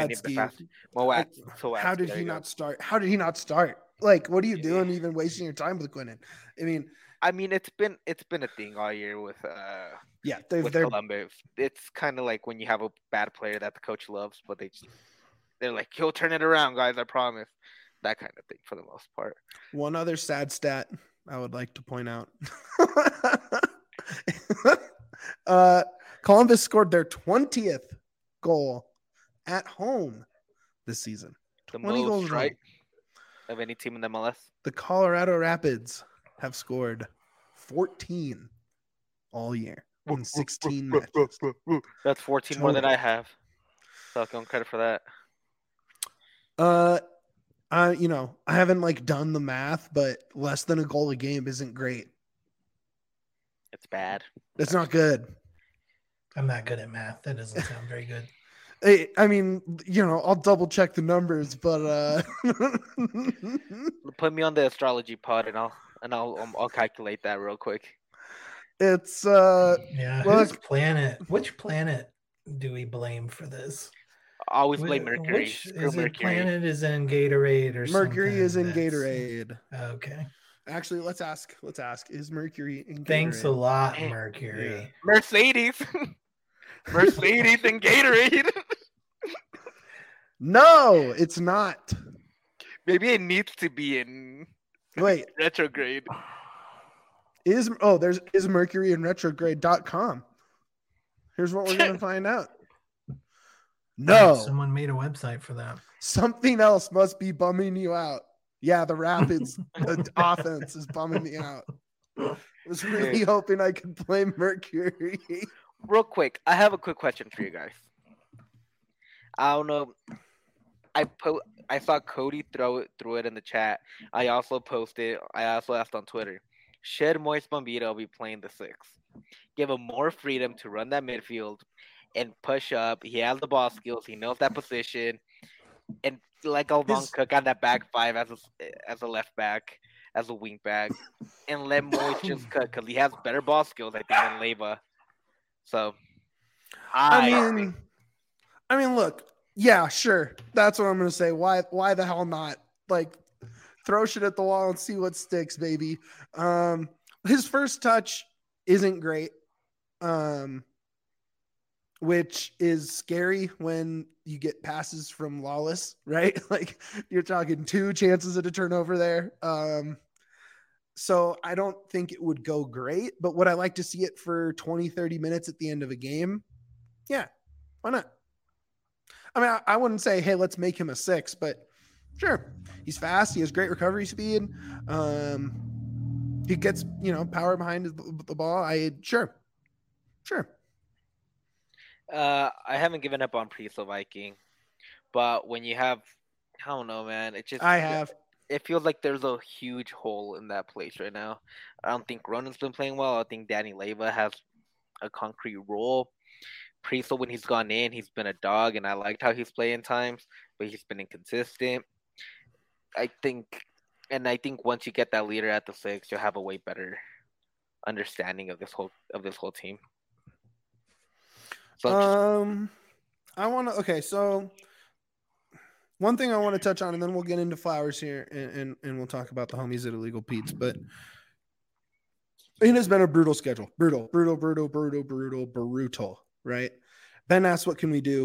How did he not start? How did he not start? Like, what are you doing even wasting your time with Quinnen? I mean, it's been a thing all year with Columbus. It's kind of like when you have a bad player that the coach loves, but they're like, he'll turn it around, guys, I promise. That kind of thing for the most part. One other sad stat I would like to point out. Columbus scored their 20th goal at home this season. The most, right? Of any team in the MLS. The Colorado Rapids have scored 14 all year in 16 matches. That's 14 more than I have. So I'll give them credit for that. I haven't done the math, but less than a goal a game isn't great. It's bad. It's not good. I'm not good at math. That doesn't sound very good. I mean, I'll double check the numbers, but put me on the astrology pod and I'll calculate that real quick. It's which planet do we blame for this? Always blame Mercury. Mercury. Planet is in Gatorade or Mercury is in Gatorade. Okay. Actually, let's ask. Is Mercury in Gatorade? Thanks a lot, Mercury. Yeah. Mercedes and Gatorade. No, it's not. Maybe it needs to be in retrograde. Is Mercury in retrograde.com. Here's what we're going to find out. No. Someone made a website for that. Something else must be bumming you out. Yeah, the Rapids offense is bumming me out. I was really hoping I could blame Mercury. Real quick, I have a quick question for you guys. I don't know. I saw Cody throw it in the chat. I also asked on Twitter. Should Moise Bombito be playing the 6? Give him more freedom to run that midfield and push up. He has the ball skills. He knows that position. And like Alvon Cook on that back 5 as a left back, as a wing back. And let Moise just cut because he has better ball skills, I think, than Leyva. So, I mean, look. Yeah, sure. That's what I'm going to say. Why the hell not? Throw shit at the wall and see what sticks, baby. His first touch isn't great, which is scary when you get passes from Lawless, right? You're talking 2 chances at a turnover there. So I don't think it would go great, but would I like to see it for 20, 30 minutes at the end of a game? Yeah, why not? I mean, I wouldn't say, hey, let's make him a 6, but sure. He's fast. He has great recovery speed. He gets, power behind the ball. Sure. I haven't given up on Priso Viking, but when you have, I don't know, man. It feels like there's a huge hole in that place right now. I don't think Ronan's been playing well. I think Danny Leyva has a concrete role. Priso, when he's gone in, he's been a dog, and I liked how he's playing times, but he's been inconsistent. I think once you get that leader at the 6, you'll have a way better understanding of this whole team. So so one thing I want to touch on, and then we'll get into Flowers here, and we'll talk about the homies at Illegal Pete's, but it has been a brutal schedule. Brutal, right? Ben asked, what can we do?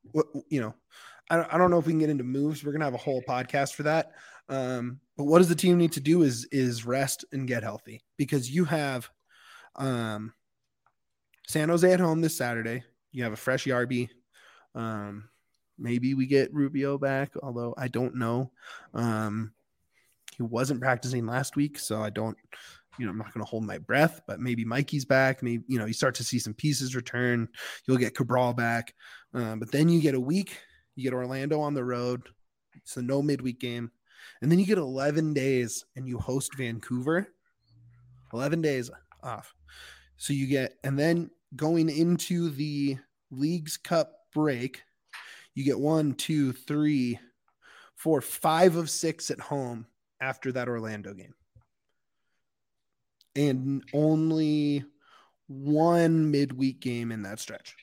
I don't know if we can get into moves. We're going to have a whole podcast for that. But what does the team need to do is rest and get healthy, because you have San Jose at home this Saturday. You have a fresh Yarby. Maybe we get Rubio back, although I don't know. He wasn't practicing last week, so I don't I'm not going to hold my breath, but maybe Mikey's back. Maybe, you start to see some pieces return. You'll get Cabral back. But then you get a week. You get Orlando on the road. It's a no midweek game. And then you get 11 days and you host Vancouver. 11 days off. So you get, and then going into the Leagues Cup break, you get 1, 2, 3, 4, 5 of 6 at home after that Orlando game. And only one midweek game in that stretch.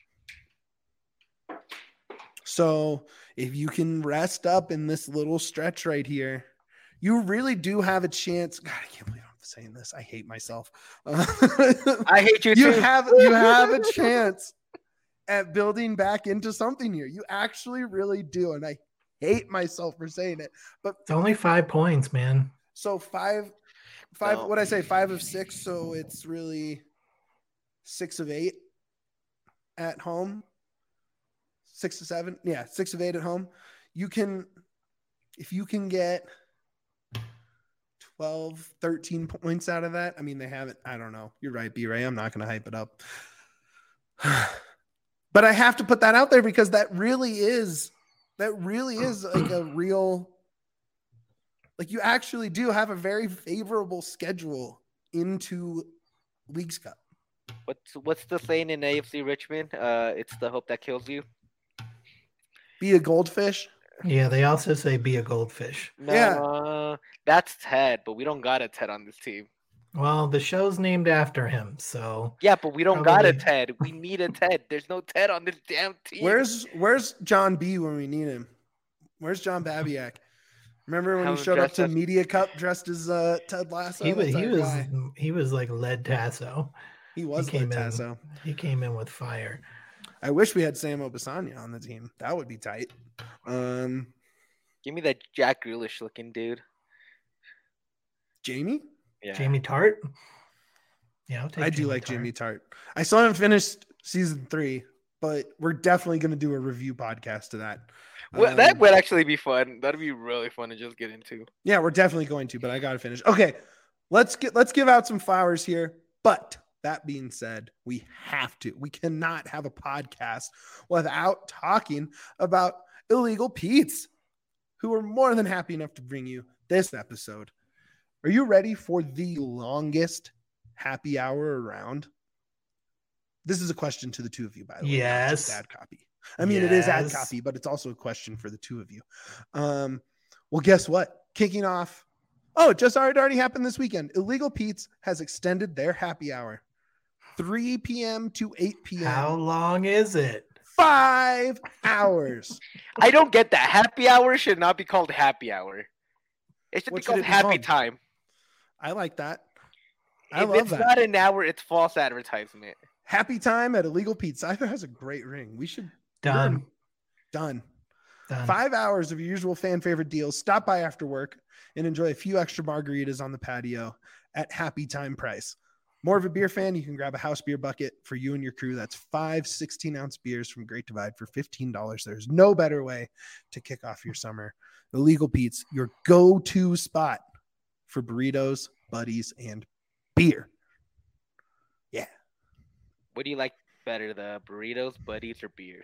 So if you can rest up in this little stretch right here, you really do have a chance. God, I can't believe I'm saying this. I hate myself. I hate you too. You have a chance at building back into something here. You actually really do. And I hate myself for saying it. But it's only 5 points, man. So five, what'd I say? 5 of 6. So it's really 6 of 8 at home. 6 to 7. Yeah. 6 of 8 at home. If you can get 12, 13 points out of that. I mean, they haven't, I don't know. You're right, B-Ray. I'm not going to hype it up. But I have to put that out there because that really is like a real, like you actually do have a very favorable schedule into Leagues Cup. What's the saying in AFC Richmond? It's the hope that kills you. Be a goldfish. Yeah, they also say be a goldfish. No, yeah. That's Ted, but we don't got a Ted on this team. Well, the show's named after him, so yeah, but we don't got a Ted. We need a Ted. There's no Ted on this damn team. Where's John B when we need him? Where's John Babiak? Remember when he showed up to Media Cup dressed as Ted Lasso? He was like Led Tasso. He was Led Tasso. He came in with fire. I wish we had Sam Obasanya on the team. That would be tight. Give me that Jack Grealish looking dude. Jamie? Yeah. Jamie Tart? Yeah, I do like Jamie Tart. I still haven't finished season 3, but we're definitely going to do a review podcast to that. Well, that would actually be fun. That'd be really fun to just get into. Yeah, we're definitely going to, but I got to finish. Okay, let's give out some flowers here. But that being said, we cannot have a podcast without talking about Illegal Pete's, who are more than happy enough to bring you this episode. Are you ready for the longest happy hour around? This is a question to the two of you, by the way. Yes. Ad copy. I mean, It is ad copy, but it's also a question for the two of you. Well, guess what? Kicking off. Oh, it already happened this weekend. Illegal Pete's has extended their happy hour. 3 p.m. to 8 p.m. How long is it? 5 hours. I don't get that. Happy hour should not be called happy hour. It should be called happy time. I like that. If it's not an hour, it's false advertisement. Happy time at Illegal Pete's. Either has a great ring. We should. Done. 5 hours of your usual fan favorite deals. Stop by after work and enjoy a few extra margaritas on the patio at happy time price. More of a beer fan, you can grab a house beer bucket for you and your crew. That's 5 16-ounce beers from Great Divide for $15. There's no better way to kick off your summer. Illegal Pete's, your go-to spot for burritos, buddies, and beer. Yeah. What do you like better, the burritos, buddies, or beers?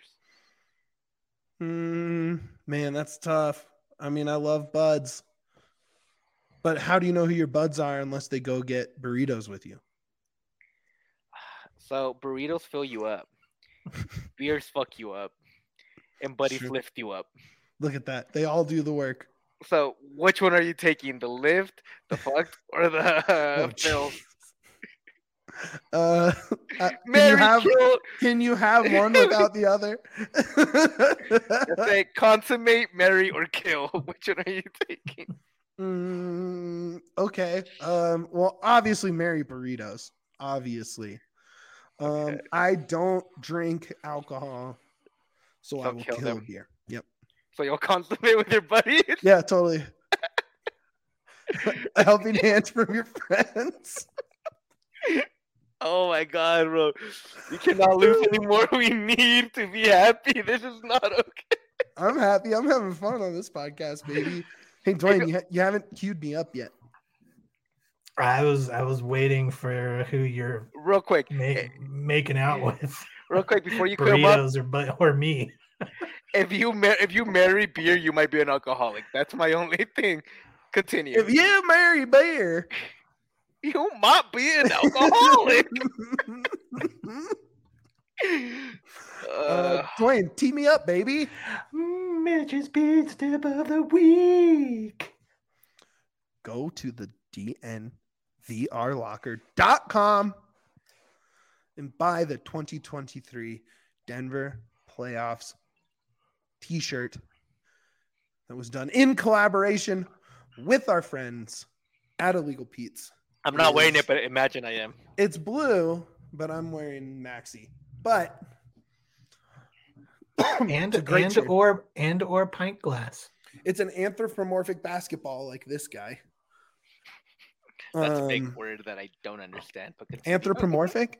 Man, that's tough. I mean, I love buds. But how do you know who your buds are unless they go get burritos with you? So burritos fill you up. Beers fuck you up. And buddies lift you up. Look at that. They all do the work. So which one are you taking? The lift, the fucked, or the fills? Can you have one without the other? Say consummate, marry, or kill. Which one are you taking? Okay. Well, obviously marry burritos. Obviously. Okay. I don't drink alcohol, so I will kill beer. Yep. So you'll consummate with your buddies? Yeah, totally. A helping hand from your friends. Oh my god, bro. We cannot lose anymore. We need to be happy. This is not okay. I'm happy. I'm having fun on this podcast, baby. Hey, Dwayne, you haven't queued me up yet. I was waiting for who you're Real quick, making out with. Real quick before you come up, or me. If you marry beer, you might be an alcoholic. That's my only thing. Continue. If you marry beer, you might be an alcoholic. Dwayne, tee me up, baby. Mitch's Beat Tip of the Week. Go to the DNVRlocker.com and buy the 2023 Denver Playoffs t-shirt that was done in collaboration with our friends at Illegal Pete's. I'm not wearing it, but imagine I am. It's blue, but I'm wearing Maxi. But or pint glass. It's an anthropomorphic basketball like this guy. That's a big word that I don't understand. But anthropomorphic?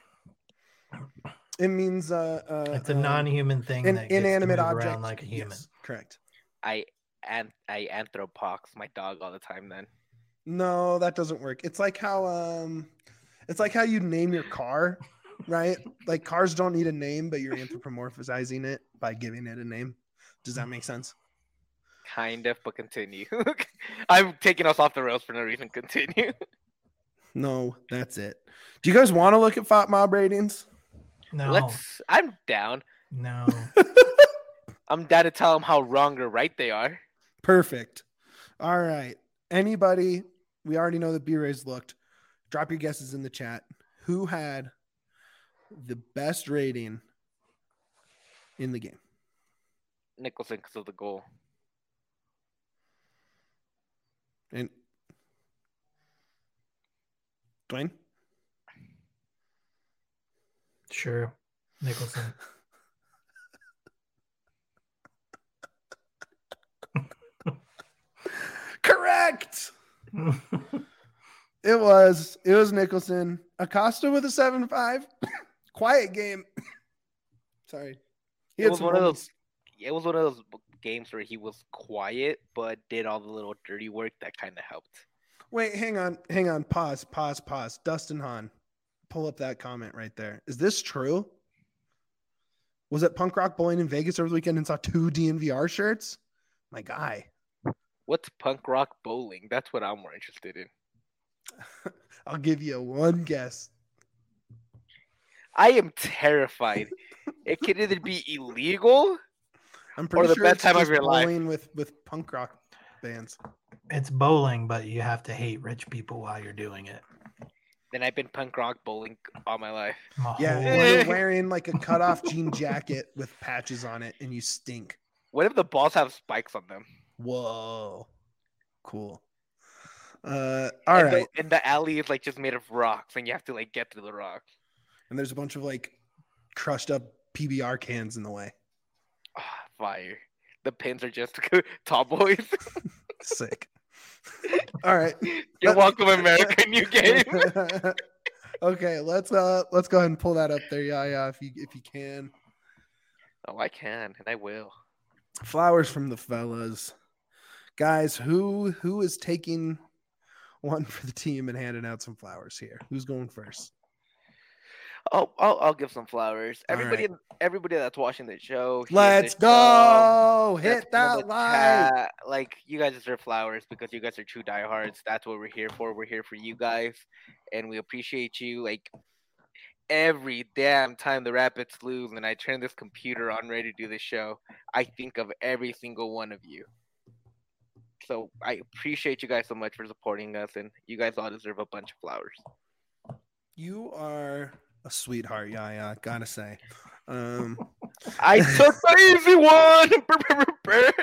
It means it's a non-human thing, an that gets inanimate to move object around like a human. Yes, correct. I anthropox my dog all the time. Then no, that doesn't work. It's like how you name your car, right? Like cars don't need a name, but you're anthropomorphizing it by giving it a name. Does that make sense? Kind of, but continue. I'm taking us off the rails for no reason. Continue. No, that's it. Do you guys want to look at FOT mob ratings? No. I'm down. No. I'm down to tell them how wrong or right they are. Perfect. All right. Anybody, we already know that B-Rays looked. Drop your guesses in the chat. Who had the best rating in the game? Nicholson because of the goal. And Dwayne? Sure. Nicholson. Correct. It was Nicholson. Acosta with a 7-5. Quiet game. Sorry. It was one of those games where he was quiet but did all the little dirty work that kind of helped. Wait, hang on. Pause. Dustin Hahn, pull up that comment right there. Is this true? Was it Punk Rock Bowling in Vegas over the weekend and saw 2 DNVR shirts? My guy. What's Punk Rock Bowling? That's what I'm more interested in. I'll give you one guess. I am terrified. It could either be illegal I'm pretty or the sure best it's time of just your life. bowling with punk rock bands. It's bowling, but you have to hate rich people while you're doing it. Then I've been punk rock bowling all my life. You're wearing like a cutoff jean jacket with patches on it and you stink. What if the balls have spikes on them? Whoa. Cool. All right. And the alley is like just made of rocks and you have to like get through the rocks. And there's a bunch of like crushed up PBR cans in the way. Oh, fire. The pins are just tall boys. Sick. All right. You're welcome, America. New game. Okay, let's go ahead and pull that up there, if you can. Oh, I can, and I will. Flowers from the fellas. Guys, who is taking one for the team and handing out some flowers here? Who's going first? I'll give some flowers. Everybody that's watching the show. Let's go. Hit that like. Like, you guys deserve flowers because you guys are true diehards. That's what we're here for. We're here for you guys, and we appreciate you. Like, every damn time the Rapids lose and I turn this computer on ready to do this show, I think of every single one of you. So I appreciate you guys so much for supporting us, and you guys all deserve a bunch of flowers. You are a sweetheart, Yaya, gotta say. I took the easy one.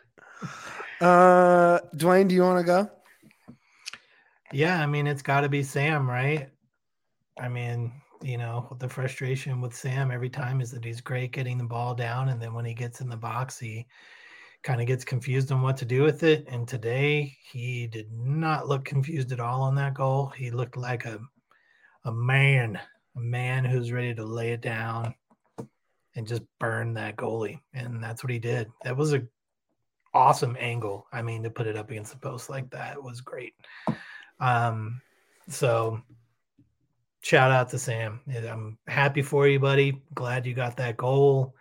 Dwayne, do you want to go? Yeah, I mean, it's got to be Sam, right? I mean, the frustration with Sam every time is that he's great getting the ball down, and then when he gets in the box, he kind of gets confused on what to do with it. And today, he did not look confused at all on that goal. He looked like a man who's ready to lay it down and just burn that goalie. And that's what he did. That was an awesome angle. I mean, to put it up against the post like that was great. So shout out to Sam. I'm happy for you, buddy. Glad you got that goal.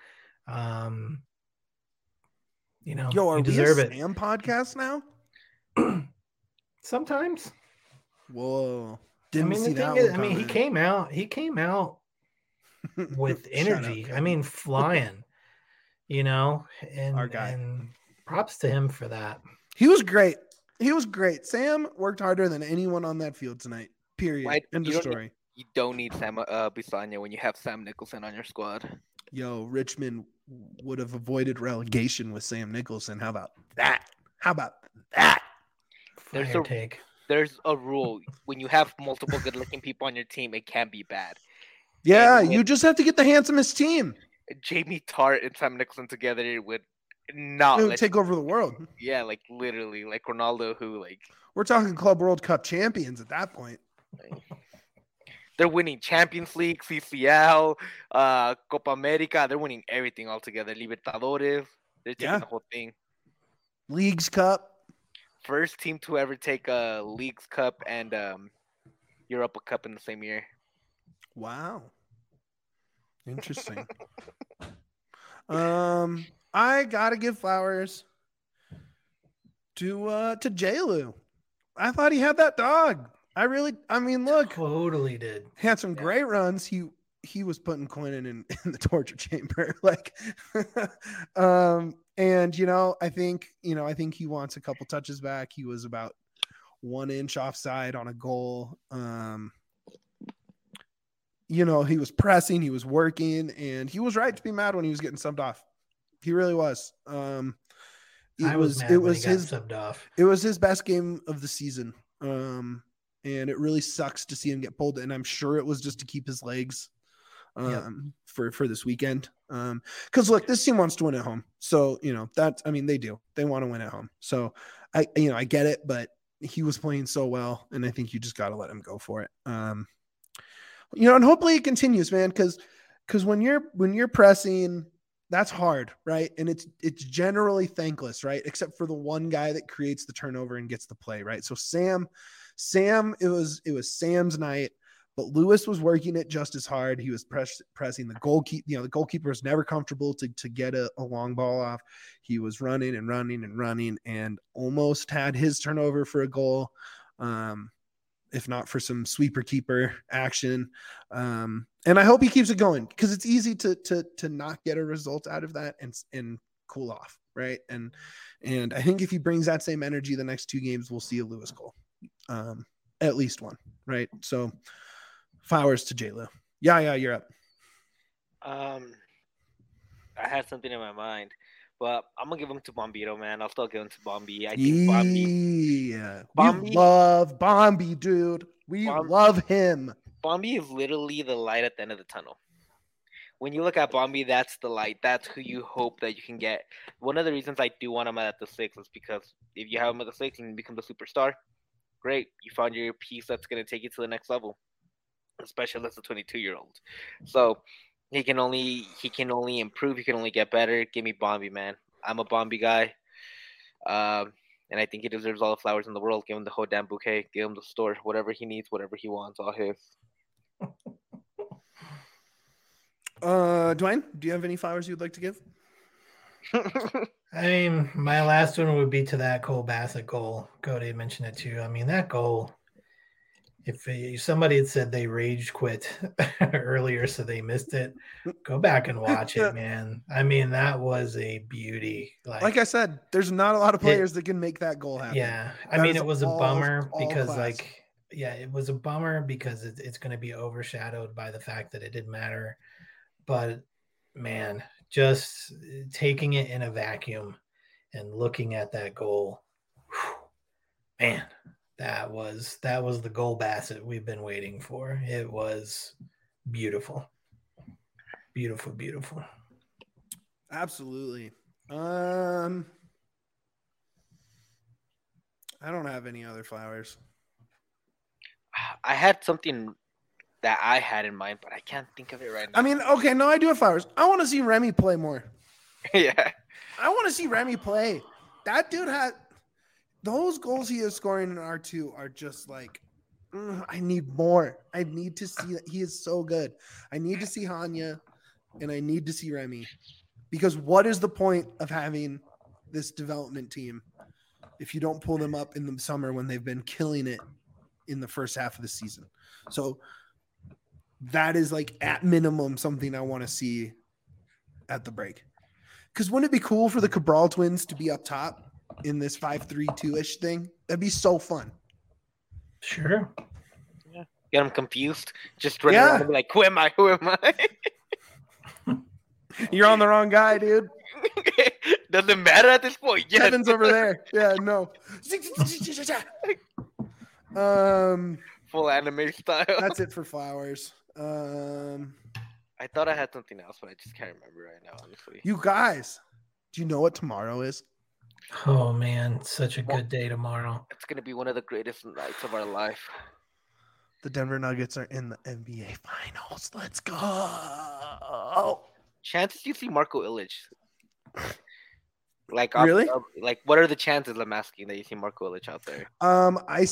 You know, Yo, are you we deserve a it. Sam podcast now? Sometimes. Whoa. Didn't see the that thing is, one he came out with energy. Flying, you know, Our guy. and props to him for that. He was great. Sam worked harder than anyone on that field tonight. Period. End of story. You don't need Sam Bisagna when you have Sam Nicholson on your squad. Yo, Richmond would have avoided relegation with Sam Nicholson. How about that? There's a rule. When you have multiple good-looking people on your team, it can be bad. Yeah, you just have to get the handsomest team. Jamie Tart and Sam Nicholson together would not take over the world. Yeah, like literally, like Ronaldo, who like we're talking Club World Cup champions at that point. They're winning Champions League, CCL, Copa America. They're winning everything all together. Libertadores. They're taking the whole thing. Leagues Cup. First team to ever take a Leagues Cup and Europa Cup in the same year. Wow. Interesting. I gotta give flowers to J-Lu. I thought he had that dog. Look. Totally did. Had some great runs. He was putting Quinnan in the torture chamber. And I think he wants a couple touches back. He was about 1 inch offside on a goal. He was pressing, he was working, and he was right to be mad when he was getting subbed off. He really was. It was his best game of the season. And it really sucks to see him get pulled. And I'm sure it was just to keep his legs for this weekend. Because look, this team wants to win at home. So, they do. They want to win at home. So I get it, but he was playing so well, and I think you just got to let him go for it. And hopefully it continues, man, because when you're pressing, that's hard, right? And it's generally thankless, right? Except for the one guy that creates the turnover and gets the play, right? So Sam, it was Sam's night, but Lewis was working it just as hard. He was pressing the goalkeeper. The goalkeeper is never comfortable to get a long ball off. He was running and almost had his turnover for a goal. If not for some sweeper keeper action. And I hope he keeps it going, because it's easy to not get a result out of that and cool off. Right. And I think if he brings that same energy the next 2 games, we'll see a Lewis goal. At least one. Right. So flowers to J-Lo. Yeah, you're up. I had something in my mind, but I'm gonna give him to Bombito, man. I'll still give him to Bombi. I think we love Bombi, dude. We love him. Bombi is literally the light at the end of the tunnel. When you look at Bombi, that's the light. That's who you hope that you can get. One of the reasons I do want him at the 6 is because if you have him at the 6 and you become the superstar, great. You found your piece that's gonna take you to the next level, especially as a 22-year-old. So he can only improve. He can only get better. Give me Bombi, man. I'm a Bombi guy. And I think he deserves all the flowers in the world. Give him the whole damn bouquet. Give him the store. Whatever he needs, whatever he wants, all his. Dwayne, do you have any flowers you'd like to give? My last one would be to that Cole Bassett goal. Cody mentioned it too. That goal, if somebody had said they rage quit earlier so they missed it, go back and watch it, man. That was a beauty. Like I said, there's not a lot of players that can make that goal happen. Yeah. It was a bummer because it was a bummer because it's going to be overshadowed by the fact that it didn't matter. But man, just taking it in a vacuum and looking at that goal, man, that was the goal Bassett we've been waiting for. It was beautiful. Beautiful, beautiful. Absolutely. I don't have any other flowers. I had something that I had in mind, but I can't think of it right now. Okay, no, I do have flowers. I want to see Remy play more. Yeah. I want to see Remy play. That dude those goals he is scoring in R2 are just like, I need more. I need to see that he is so good. I need to see Hanya and I need to see Remy, because what is the point of having this development team if you don't pull them up in the summer when they've been killing it in the first half of the season? So that is like at minimum something I want to see at the break. Because wouldn't it be cool for the Cabral twins to be up top in this 5-3-2-ish thing? That'd be so fun. Sure. Yeah. Get them confused. Just run around and be like, who am I? Who am I? You're on the wrong guy, dude. Doesn't matter at this point. Yes. Kevin's over there. Yeah, no. Full anime style. That's it for Flowers. I thought I had something else, but I just can't remember right now, honestly. You guys, do you know what tomorrow is? Oh, man. Such a good day tomorrow. It's going to be one of the greatest nights of our life. The Denver Nuggets are in the NBA Finals. Let's go. Chances you see Marco Illich? Like, really? Like, what are the chances, I'm asking, that you see Marco Illich out there? I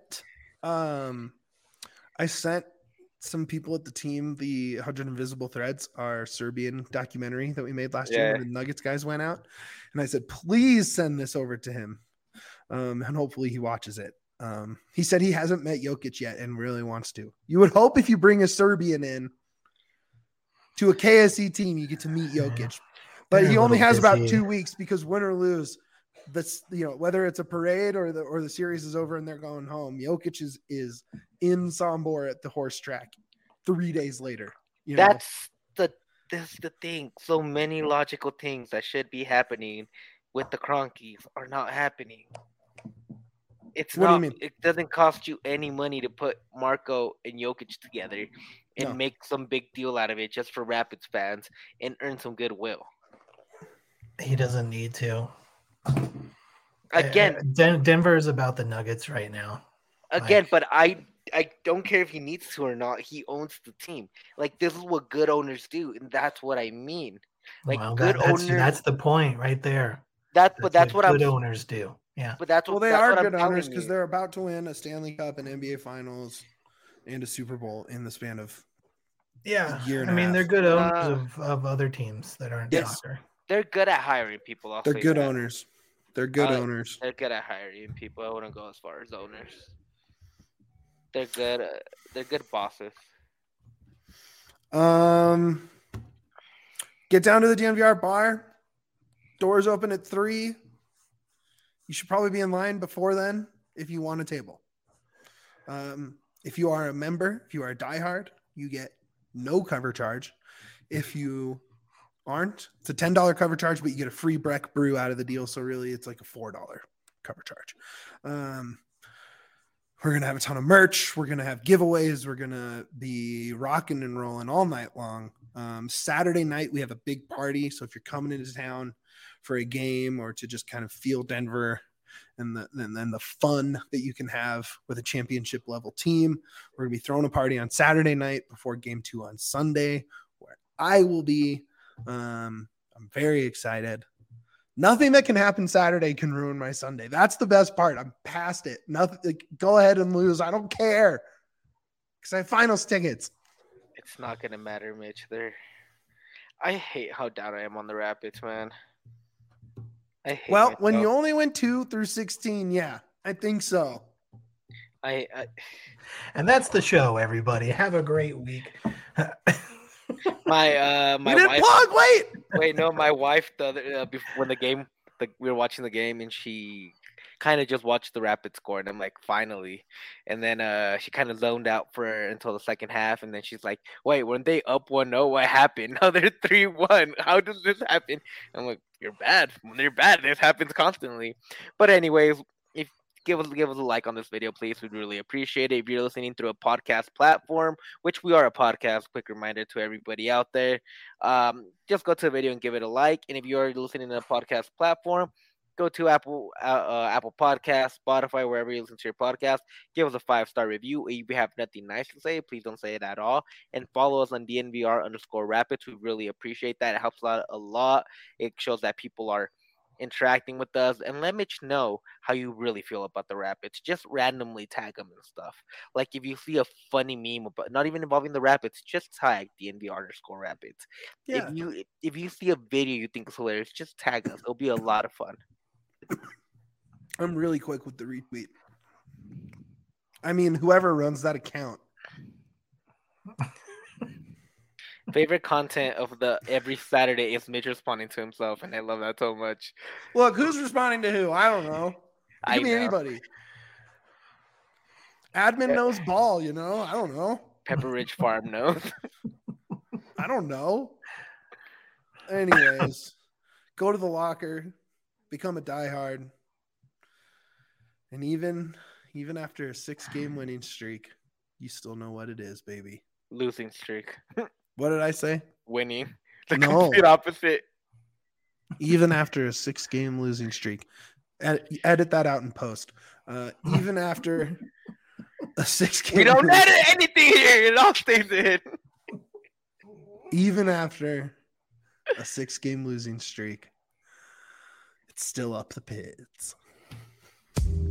sent some people at the team the 100 Invisible Threads, our Serbian documentary that we made last year when the Nuggets guys went out. And I said, please send this over to him. And hopefully he watches it. He said he hasn't met Jokic yet and really wants to. You would hope if you bring a Serbian in to a KSE team, you get to meet Jokic. But he only has about 2 weeks, because win or lose, that's, whether it's a parade or the series is over and they're going home, Jokic is in Sombor at the horse track 3 days later. That's the thing. So many logical things that should be happening with the Cronkies are not happening. What do you mean? It doesn't cost you any money to put Marco and Jokic together and make some big deal out of it just for Rapids fans and earn some goodwill. He doesn't need to. Again, Denver is about the Nuggets right now. Again, but I don't care if he needs to or not. He owns the team. Like, this is what good owners do, and that's what I mean. Like, that's the point right there. That's what good owners do. Yeah, but that's what they are good owners, because they're about to win a Stanley Cup, an NBA Finals, and a Super Bowl in the span of a year and a half. They're good owners of other teams that aren't soccer. They're good at hiring people. They're good owners. They're good owners. They're good at hiring people. I wouldn't go as far as owners. They're good. They're good bosses. Get down to the DNVR bar. Doors open at 3. You should probably be in line before then if you want a table. If you are a member, if you are a diehard, you get no cover charge. If you aren't, it's a $10 cover charge, but you get a free Breck brew out of the deal. So really it's like a $4 cover charge. We're going to have a ton of merch. We're going to have giveaways. We're going to be rocking and rolling all night long. Saturday night, we have a big party. So if you're coming into town for a game or to just kind of feel Denver and then the fun that you can have with a championship level team, we're going to be throwing a party on Saturday night before game 2 on Sunday, where I will be. I'm very excited. Nothing that can happen Saturday can ruin my Sunday. That's the best part. I'm past it. Nothing. Like, go ahead and lose. I don't care, because I have finals tickets. It's not gonna matter, Mitch. I hate how down I am on the Rapids, man. When you only went 2 through 16, yeah, I think so. And that's the show, everybody. Have a great week. My wife. My wife when we were watching the game, and she kind of just watched the Rapid score, and I'm like, finally. And then she kind of zoned out until the second half, and then she's like, wait, weren't they up 1-0? What happened? Now they're 3-1. How does this happen? I'm like, you're bad. When they're bad, this happens constantly. But anyways, give us a like on this video, please. We'd really appreciate it. If you're listening through a podcast platform, which we are a podcast, quick reminder to everybody out there, just go to the video and give it a like. And if you're already listening to a podcast platform, go to Apple Podcasts, Spotify, wherever you listen to your podcast. Give us a 5-star review. If you have nothing nice to say, please don't say it at all. And follow us on DNVR_Rapids. We really appreciate that. It helps out a lot. It shows that people are interacting with us, and let Mitch know how you really feel about the Rapids. Just randomly tag them and stuff. Like if you see a funny meme about not even involving the Rapids, just tag DNV_Rapids. Yeah. If you see a video you think is hilarious, just tag us. It'll be a lot of fun. I'm really quick with the retweet. I mean, whoever runs that account. Favorite content of the every Saturday is Mitch responding to himself, and I love that so much. Look, who's responding to who? I don't know. It could be anybody. Admin knows ball, you know? I don't know. Pepper Ridge Farm knows. I don't know. Anyways, go to the locker, become a diehard. And even after a 6-game winning streak, you still know what it is, baby. Losing streak. What did I say? Winning. The No. complete opposite. Even after a 6-game losing streak. Edit that out in post. Even after a 6-game We don't edit anything here. It all stays in. Even after a 6-game losing streak, it's still up the pits.